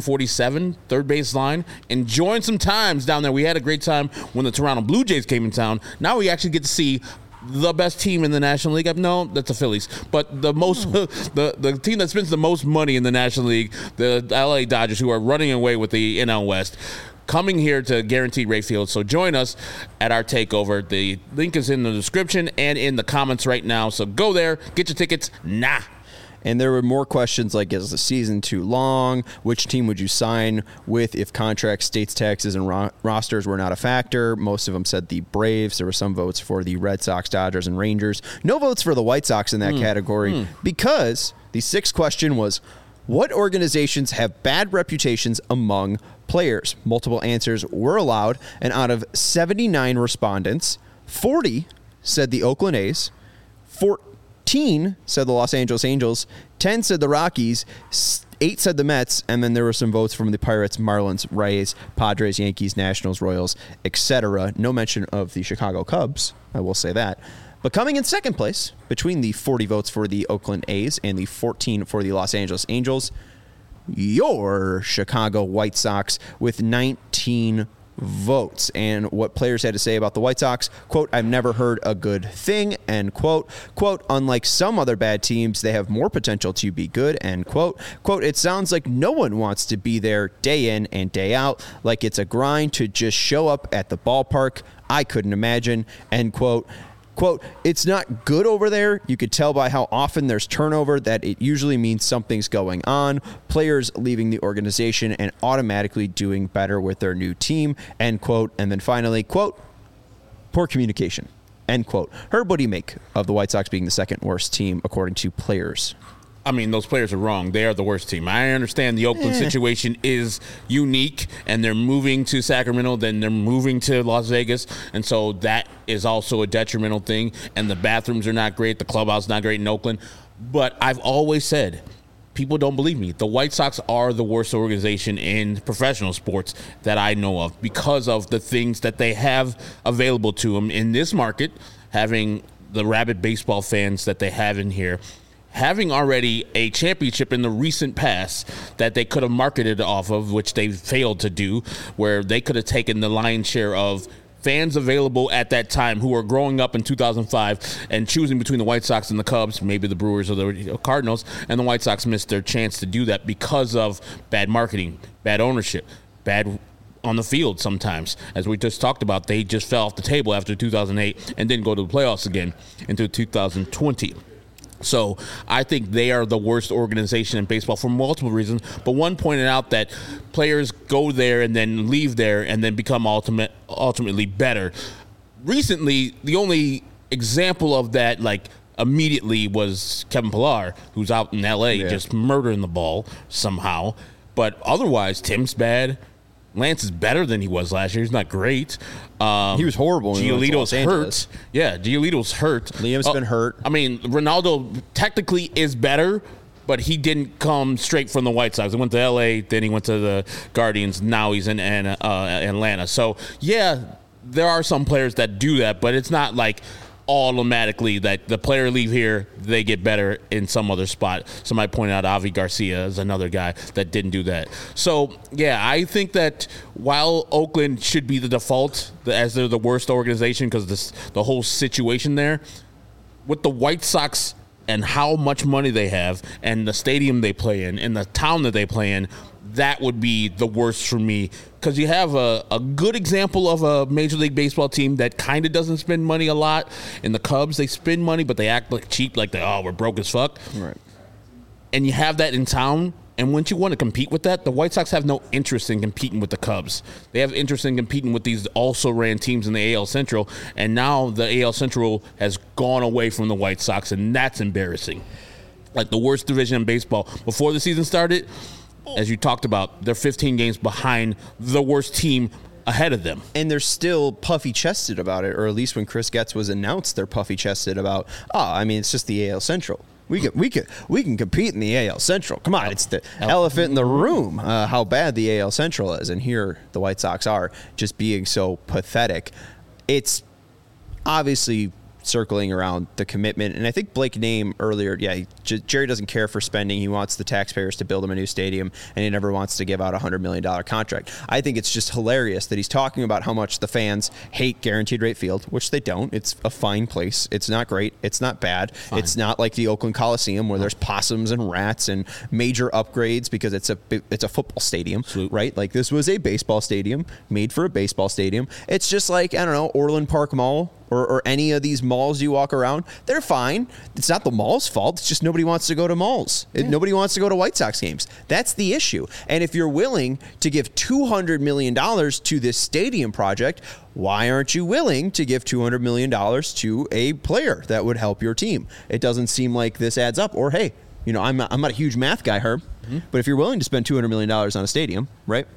147, third base line, enjoying some times down there. We had a great time when the Toronto Blue Jays came in town. Now we actually get to see the best team in the National League. No, that's the Phillies. But the most, the team that spends the most money in the National League, the LA Dodgers, who are running away with the NL West, coming here to Guaranteed Rate Field. So join us at our takeover. The link is in the description and in the comments right now. So go there, get your tickets now. And there were more questions like, is the season too long? Which team would you sign with if contracts, states, taxes, and rosters were not a factor? Most of them said the Braves. There were some votes for the Red Sox, Dodgers, and Rangers. No votes for the White Sox in that category because the 6th question was, what organizations have bad reputations among players? Multiple answers were allowed, and out of 79 respondents, 40 said the Oakland A's, 14 said the Los Angeles Angels, 10 said the Rockies, 8 said the Mets, and then there were some votes from the Pirates, Marlins, Rays, Padres, Yankees, Nationals, Royals, etc. No mention of the Chicago Cubs, I will say that. But coming in second place, between the 40 votes for the Oakland A's and the 14 for the Los Angeles Angels, your Chicago White Sox with 19 votes. And what players had to say about the White Sox, quote, I've never heard a good thing, end quote. Quote, unlike some other bad teams, they have more potential to be good, end quote. Quote, it sounds like no one wants to be there day in and day out, like it's a grind to just show up at the ballpark. I couldn't imagine, end quote. Quote, it's not good over there. You could tell by how often there's turnover that it usually means something's going on. Players leaving the organization and automatically doing better with their new team, end quote. And then finally, quote, poor communication. end quote. Herb, what do you make of the White Sox being the second worst team according to players? I mean, those players are wrong. They are the worst team. I understand the Oakland situation is unique, and they're moving to Sacramento, then they're moving to Las Vegas, and so that is also a detrimental thing, and the bathrooms are not great, the clubhouse is not great in Oakland. But I've always said, people don't believe me, the White Sox are the worst organization in professional sports that I know of because of the things that they have available to them in this market, having the rabid baseball fans that they have in here, having already a championship in the recent past that they could have marketed off of, which they failed to do, where they could have taken the lion's share of fans available at that time who were growing up in 2005 and choosing between the White Sox and the Cubs, maybe the Brewers or the Cardinals, and the White Sox missed their chance to do that because of bad marketing, bad ownership, bad on the field sometimes. As we just talked about, they just fell off the table after 2008 and didn't go to the playoffs again into 2020. So I think they are the worst organization in baseball for multiple reasons. But one pointed out that players go there and then leave there and then become ultimately better. Recently, the only example of that, like immediately, was Kevin Pillar, who's out in L.A. just murdering the ball somehow. But otherwise, Tim's bad. Lance is better than he was last year. He's not great. He was horrible. Giolito's hurt. Yeah, Giolito's hurt. Liam's been hurt. I mean, Ronaldo technically is better, but he didn't come straight from the White Sox. He went to L.A., then he went to the Guardians. Now he's in Atlanta. So, yeah, there are some players that do that, but it's not like automatically that the player leave here, they get better in some other spot. Somebody pointed out Avi Garcia is another guy that didn't do that. So, yeah, I think that while Oakland should be the default as they're the worst organization because the whole situation there, with the White Sox and how much money they have and the stadium they play in and the town that they play in, that would be the worst for me because you have a good example of a Major League Baseball team that kind of doesn't spend money a lot. In the Cubs, they spend money, but they act like cheap, like we're broke as fuck. Right. And you have that in town, and once you want to compete with that, the White Sox have no interest in competing with the Cubs. They have interest in competing with these also-ran teams in the AL Central, and now the AL Central has gone away from the White Sox, and that's embarrassing. Like the worst division in baseball. Before the season started, as you talked about, they're 15 games behind the worst team ahead of them. And they're still puffy-chested about it, or at least when Chris Getz was announced, they're puffy-chested about, it's just the AL Central. We can compete in the AL Central. Come on, it's the elephant in the room, how bad the AL Central is. And here the White Sox are just being so pathetic. It's obviously circling around the commitment. And I think Blake named earlier, Jerry doesn't care for spending. He wants the taxpayers to build him a new stadium, and he never wants to give out a $100 million contract. I think it's just hilarious that he's talking about how much the fans hate Guaranteed Rate Field, which they don't. It's a fine place. It's not great. It's not bad. Fine. It's not like the Oakland Coliseum where there's possums and rats and major upgrades because it's a football stadium, right? Like this was a baseball stadium made for a baseball stadium. It's just like, I don't know, Orland Park Mall or any of these malls you walk around. They're fine. It's not the mall's fault. It's just nobody wants to go to malls. Yeah. Nobody wants to go to White Sox games. That's the issue. And if you're willing to give $200 million to this stadium project, why aren't you willing to give $200 million to a player that would help your team? It doesn't seem like this adds up. Or, hey, I'm not a huge math guy, Herb, but if you're willing to spend $200 million on a stadium, right,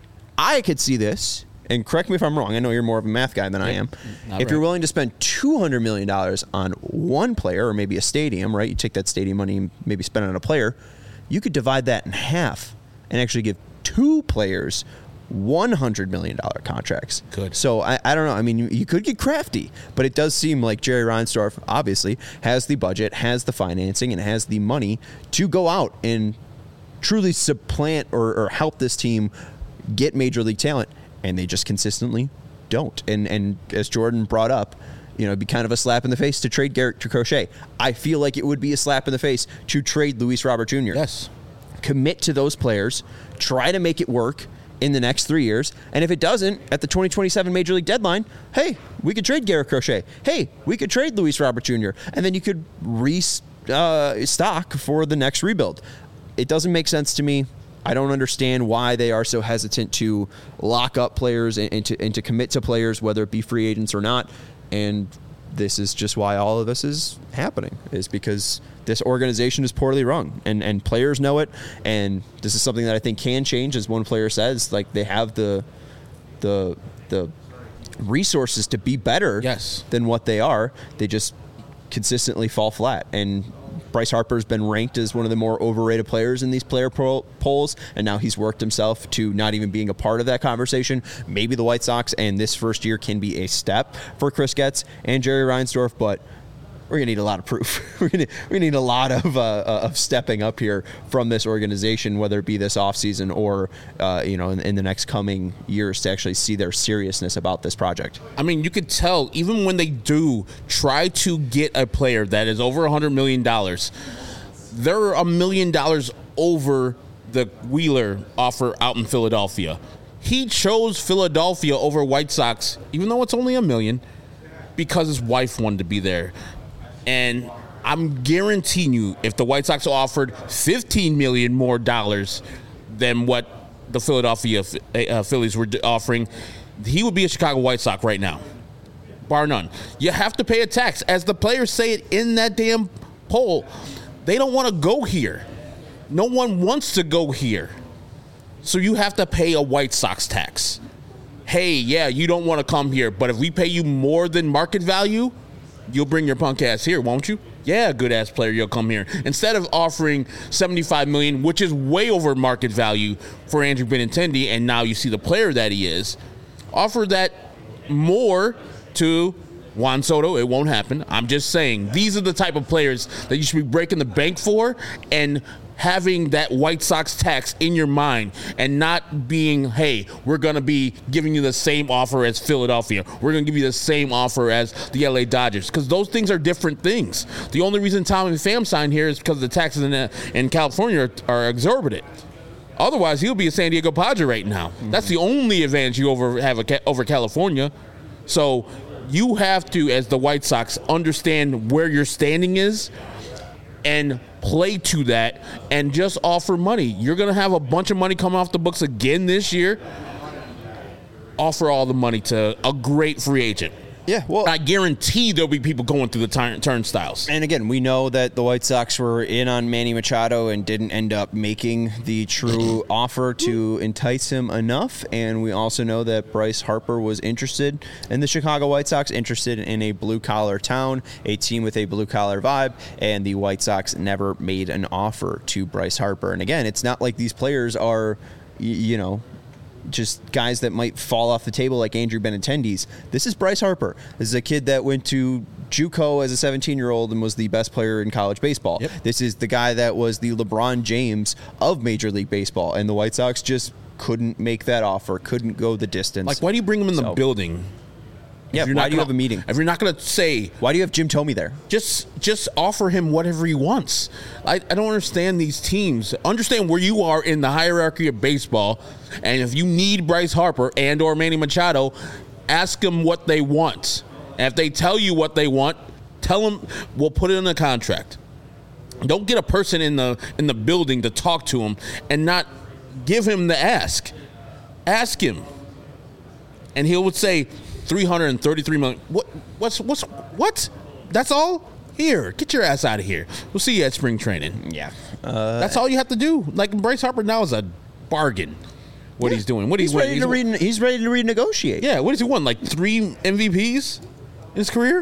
I could see this. And correct me if I'm wrong. I know you're more of a math guy than I am. If you're willing to spend $200 million on one player or maybe a stadium, right? You take that stadium money and maybe spend it on a player. You could divide that in half and actually give two players $100 million contracts. Good. So I don't know. I mean, you could get crafty, but it does seem like Jerry Reinsdorf obviously has the budget, has the financing, and has the money to go out and truly supplant or help this team get major league talent. And they just consistently don't. And as Jordan brought up, it'd be kind of a slap in the face to trade Garrett Crochet. I feel like it would be a slap in the face to trade Luis Robert Jr. Yes. Commit to those players, try to make it work in the next 3 years. And if it doesn't, at the 2027 Major League deadline, hey, we could trade Garrett Crochet. Hey, we could trade Luis Robert Jr. And then you could restock for the next rebuild. It doesn't make sense to me. I don't understand why they are so hesitant to lock up players and to commit to players, whether it be free agents or not. And this is just why all of this is happening, is because this organization is poorly run, and players know it. And this is something that I think can change, as one player says. Like, they have the resources to be better than what they are. They just consistently fall flat. And Bryce Harper's been ranked as one of the more overrated players in these player polls, and now he's worked himself to not even being a part of that conversation. Maybe the White Sox and this first year can be a step for Chris Getz and Jerry Reinsdorf, but we're going to need a lot of proof. We're going to need a lot of stepping up here from this organization, whether it be this offseason or in the next coming years, to actually see their seriousness about this project. I mean, you could tell even when they do try to get a player that is over $100 million, they're $1 million over the Wheeler offer out in Philadelphia. He chose Philadelphia over White Sox, even though it's only $1 million, because his wife wanted to be there. And I'm guaranteeing you, if the White Sox offered $15 million more than what the Philadelphia Phillies were offering, he would be a Chicago White Sox right now, bar none. You have to pay a tax. As the players say it in that damn poll, they don't want to go here. No one wants to go here. So you have to pay a White Sox tax. Hey, yeah, you don't want to come here, but if we pay you more than market value, you'll bring your punk ass here, won't you? Yeah, good ass player, you'll come here. Instead of offering $75 million, which is way over market value for Andrew Benintendi, and now you see the player that he is, offer that more to Juan Soto. It won't happen. I'm just saying, these are the type of players that you should be breaking the bank for, and having that White Sox tax in your mind, and not being, hey, we're going to be giving you the same offer as Philadelphia. We're going to give you the same offer as the LA Dodgers, because those things are different things. The only reason Tommy Pham signed here is because the taxes in California are exorbitant. Otherwise, he'll be a San Diego Padre right now. Mm-hmm. That's the only advantage you have over California. So you have to, as the White Sox, understand where your standing is and play to that, and just offer money. You're going to have a bunch of money come off the books again this year. Offer all the money to a great free agent. Yeah, well, I guarantee there'll be people going through the turnstiles. And again, we know that the White Sox were in on Manny Machado and didn't end up making the true offer to entice him enough. And we also know that Bryce Harper was interested in the Chicago White Sox, interested in a blue-collar town, a team with a blue-collar vibe, and the White Sox never made an offer to Bryce Harper. And again, it's not like these players are, just guys that might fall off the table like Andrew Benintendi's. This is Bryce Harper. This is a kid that went to JUCO as a 17-year-old and was the best player in college baseball. Yep. This is the guy that was the LeBron James of Major League Baseball, and the White Sox just couldn't make that offer, couldn't go the distance. Like, why do you bring him in the building? Yeah, why do you have a meeting? If you're not going to say... Why do you have Jim Thome there? Just offer him whatever he wants. I don't understand these teams. Understand where you are in the hierarchy of baseball, and if you need Bryce Harper and or Manny Machado, ask them what they want. And if they tell you what they want, tell them we'll put it in a contract. Don't get a person in the building to talk to him and not give him the ask. Ask him. And he would say... $333 million. What? That's all? Here, get your ass out of here. We'll see you at spring training. Yeah. That's all you have to do. Like, Bryce Harper now is a bargain. What he's doing. He's ready to renegotiate. Yeah, what does he want? Like 3 MVPs in his career?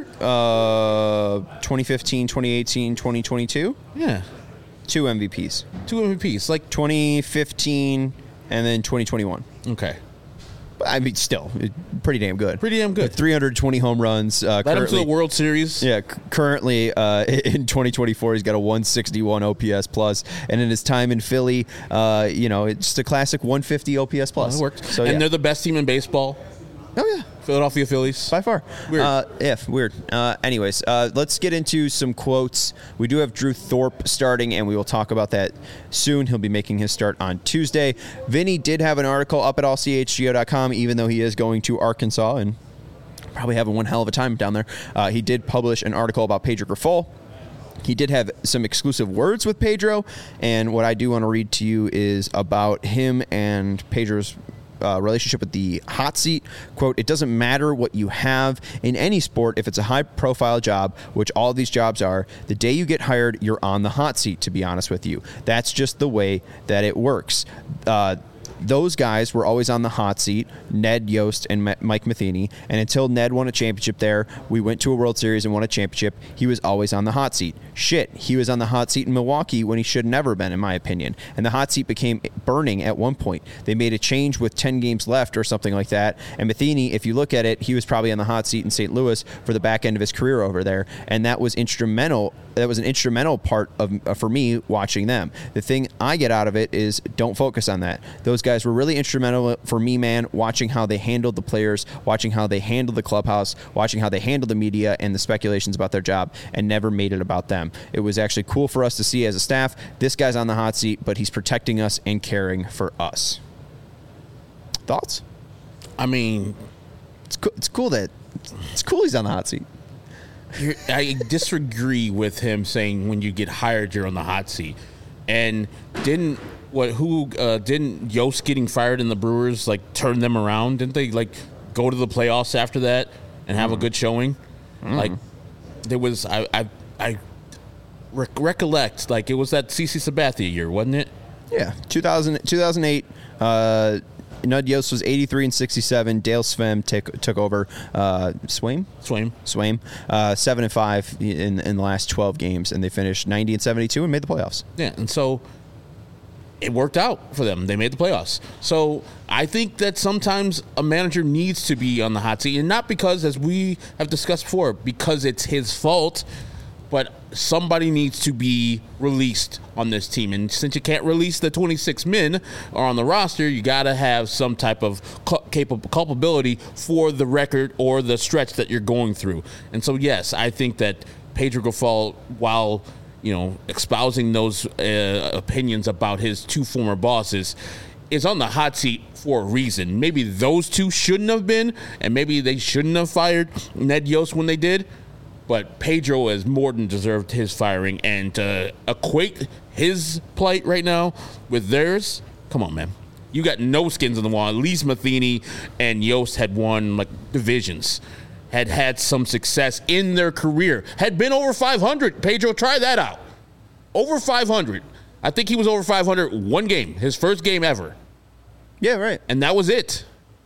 2015, 2018, 2022? Yeah. 2 MVPs. 2 MVPs. Like 2015 and then 2021. Okay. I mean, still, pretty damn good. 320 home runs. Led him to the World Series. Yeah, currently in 2024, he's got a 161 OPS plus, and in his time in Philly, it's just a classic 150 OPS plus. That worked. So, and they're the best team in baseball. Oh, yeah. Philadelphia Phillies. By far. Weird. Weird. Anyways, let's get into some quotes. We do have Drew Thorpe starting, and we will talk about that soon. He'll be making his start on Tuesday. Vinny did have an article up at allchgo.com, even though he is going to Arkansas and probably having one hell of a time down there. He did publish an article about Pedro Grifol. He did have some exclusive words with Pedro, and what I do want to read to you is about him and Pedro's relationship with the hot seat. Quote, "It doesn't matter what you have in any sport. If it's a high-profile job, which all of these jobs are, the day you get hired, you're on the hot seat, to be honest with you. That's just the way that it works." Those guys were always on the hot seat, Ned Yost and Mike Matheny. And until Ned won a championship there, we went to a World Series and won a championship. He was always on the hot seat. Shit, he was on the hot seat in Milwaukee when he should have never been, in my opinion. And the hot seat became burning at one point. They made a change with 10 games left or something like that. And Matheny, if you look at it, he was probably on the hot seat in St. Louis for the back end of his career over there. And that was instrumental. That was an instrumental part of for me watching them. The thing I get out of it is don't focus on that. Those guys were really instrumental for me, man, watching how they handled the players, watching how they handled the clubhouse, watching how they handled the media and the speculations about their job, and never made it about them. It was actually cool for us to see as a staff, this guy's on the hot seat, but he's protecting us and caring for us. Thoughts? I mean, it's cool he's on the hot seat. I disagree with him saying when you get hired, you're on the hot seat. And didn't Yost getting fired in the Brewers like turn them around? Didn't they like go to the playoffs after that and have a good showing? Like there was I recollect like it was that CC Sabathia year, wasn't it? Yeah, 2008. Nud Yost was 83 and 67. Dale Svem took over. Swaim, 7 and 5 in the last 12 games, and they finished 90 and 72 and made the playoffs. Yeah, and so it worked out for them. They made the playoffs. So I think that sometimes a manager needs to be on the hot seat, and not because, as we have discussed before, because it's his fault, but somebody needs to be released on this team. And since you can't release the 26 men are on the roster, you got to have some type of culpability for the record or the stretch that you're going through. And so, yes, I think that Pedro Grifol, while espousing those opinions about his two former bosses, is on the hot seat for a reason. Maybe those two shouldn't have been, and maybe they shouldn't have fired Ned Yost when they did. But Pedro has more than deserved his firing, and to equate his plight right now with theirs, come on, man. You got no skins in the wall. At least Matheny and Yost had won like divisions, had some success in their career, had been over 500. Pedro, try that out. Over 500. I think he was over 500 one game, his first game ever. Yeah, right. And that was it.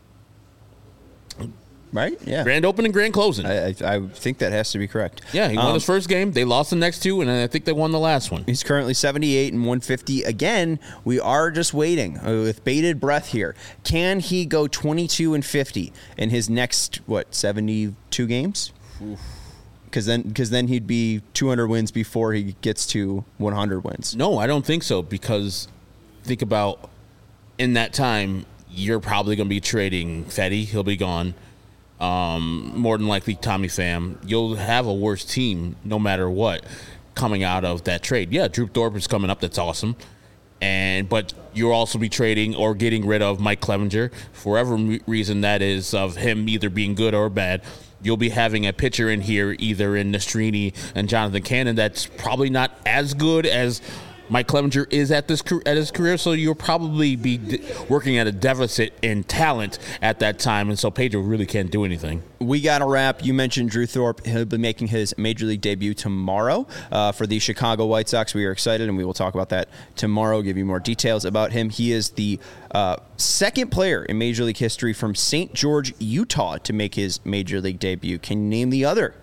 Right? Yeah. Grand opening, grand closing. I think that has to be correct. Yeah, he won his first game. They lost the next two, and I think they won the last one. He's currently 78 and 150. Again, we are just waiting with bated breath here. Can he go 22 and 50 in his next 72 games? Because then he'd be 200 wins before he gets to 100 wins. No, I don't think so. Because think about in that time, you're probably going to be trading Fetty. He'll be gone. More than likely Tommy Pham. You'll have a worse team no matter what coming out of that trade. Yeah, Drew Thorpe is coming up. That's awesome. But you'll also be trading or getting rid of Mike Clevenger for whatever reason that is, of him either being good or bad. You'll be having a pitcher in here, either in Nastrini and Jonathan Cannon, that's probably not as good as Mike Clevenger is at his career, so you'll probably be working at a deficit in talent at that time, and so Pedro really can't do anything. We got a wrap. You mentioned Drew Thorpe. He'll be making his Major League debut tomorrow for the Chicago White Sox. We are excited, and we will talk about that tomorrow, give you more details about him. He is the second player in Major League history from St. George, Utah, to make his Major League debut. Can you name the other?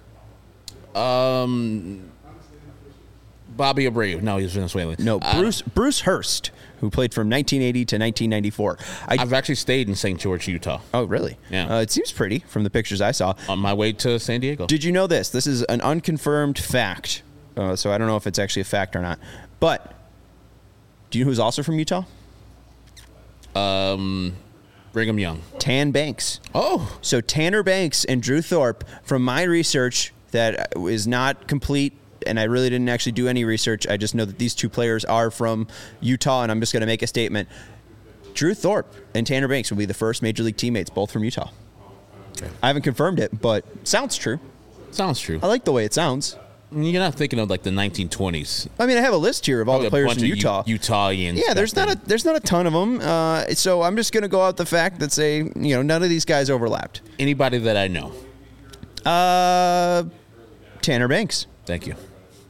Bobby Abreu. No, he's Venezuelan. No, Bruce Hurst, who played from 1980 to 1994. I've actually stayed in St. George, Utah. Oh, really? Yeah. It seems pretty from the pictures I saw. On my way to San Diego. Did you know this? This is an unconfirmed fact, so I don't know if it's actually a fact or not. But do you know who's also from Utah? Brigham Young. Tan Banks. Oh. So Tanner Banks and Drew Thorpe, from my research that is not complete, and I really didn't actually do any research. I just know that these two players are from Utah, and I'm just going to make a statement. Drew Thorpe and Tanner Banks will be the first Major League teammates, both from Utah. Okay. I haven't confirmed it, but sounds true. Sounds true. I like the way it sounds. You're not thinking of like the 1920s. I mean, I have a list here of all the players in Utah. Utahians. Yeah, there's not a ton of them. So I'm just going to go out the fact that say, none of these guys overlapped. Anybody that I know. Tanner Banks. Thank you.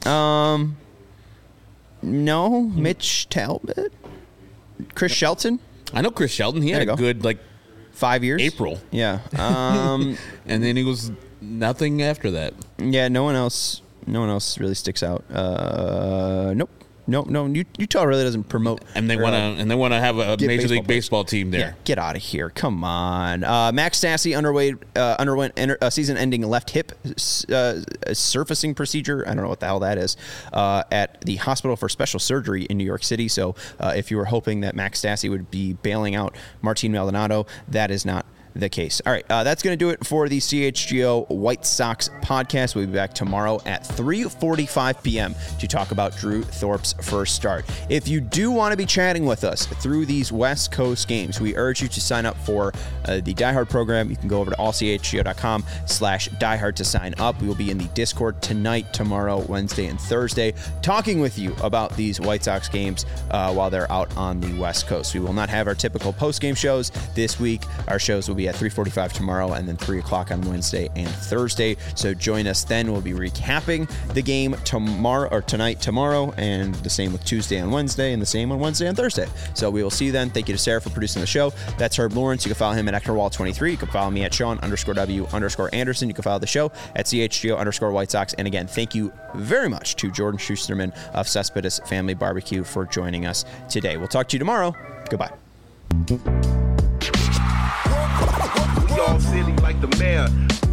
No, Mitch Talbot. Chris Shelton. I know Chris Shelton. He had a good 5 years. April. Yeah. And then he was nothing after that. Yeah, no one else really sticks out. Nope. No. Utah really doesn't promote. And they want to have a Major League Baseball team there. Yeah, get out of here! Come on. Max Stassi underwent a season-ending left hip surfacing procedure. I don't know what the hell that is. At the Hospital for Special Surgery in New York City. So, if you were hoping that Max Stassi would be bailing out Martin Maldonado, that is not the case. All right, that's going to do it for the CHGO White Sox podcast. We'll be back tomorrow at 3:45 p.m. to talk about Drew Thorpe's first start. If you do want to be chatting with us through these West Coast games, we urge you to sign up for the Diehard program. You can go over to allchgo.com/diehard to sign up. We will be in the Discord tonight, tomorrow, Wednesday, and Thursday, talking with you about these White Sox games while they're out on the West Coast. We will not have our typical post-game shows this week. Our shows will be at 3:45 tomorrow and then 3 o'clock on Wednesday and Thursday. So join us then. We'll be recapping the game tomorrow, and the same with Tuesday and Wednesday, and the same on Wednesday and Thursday. So we will see you then. Thank you to Sarah for producing the show. That's Herb Lawrence. You can follow him at EctorWall23. You can follow me at Sean_W_Anderson. You can follow the show at CHGO_White Sox. And again, thank you very much to Jordan Schusterman of Cespedes Family Barbecue for joining us today. We'll talk to you tomorrow. Goodbye. We all silly like the mayor.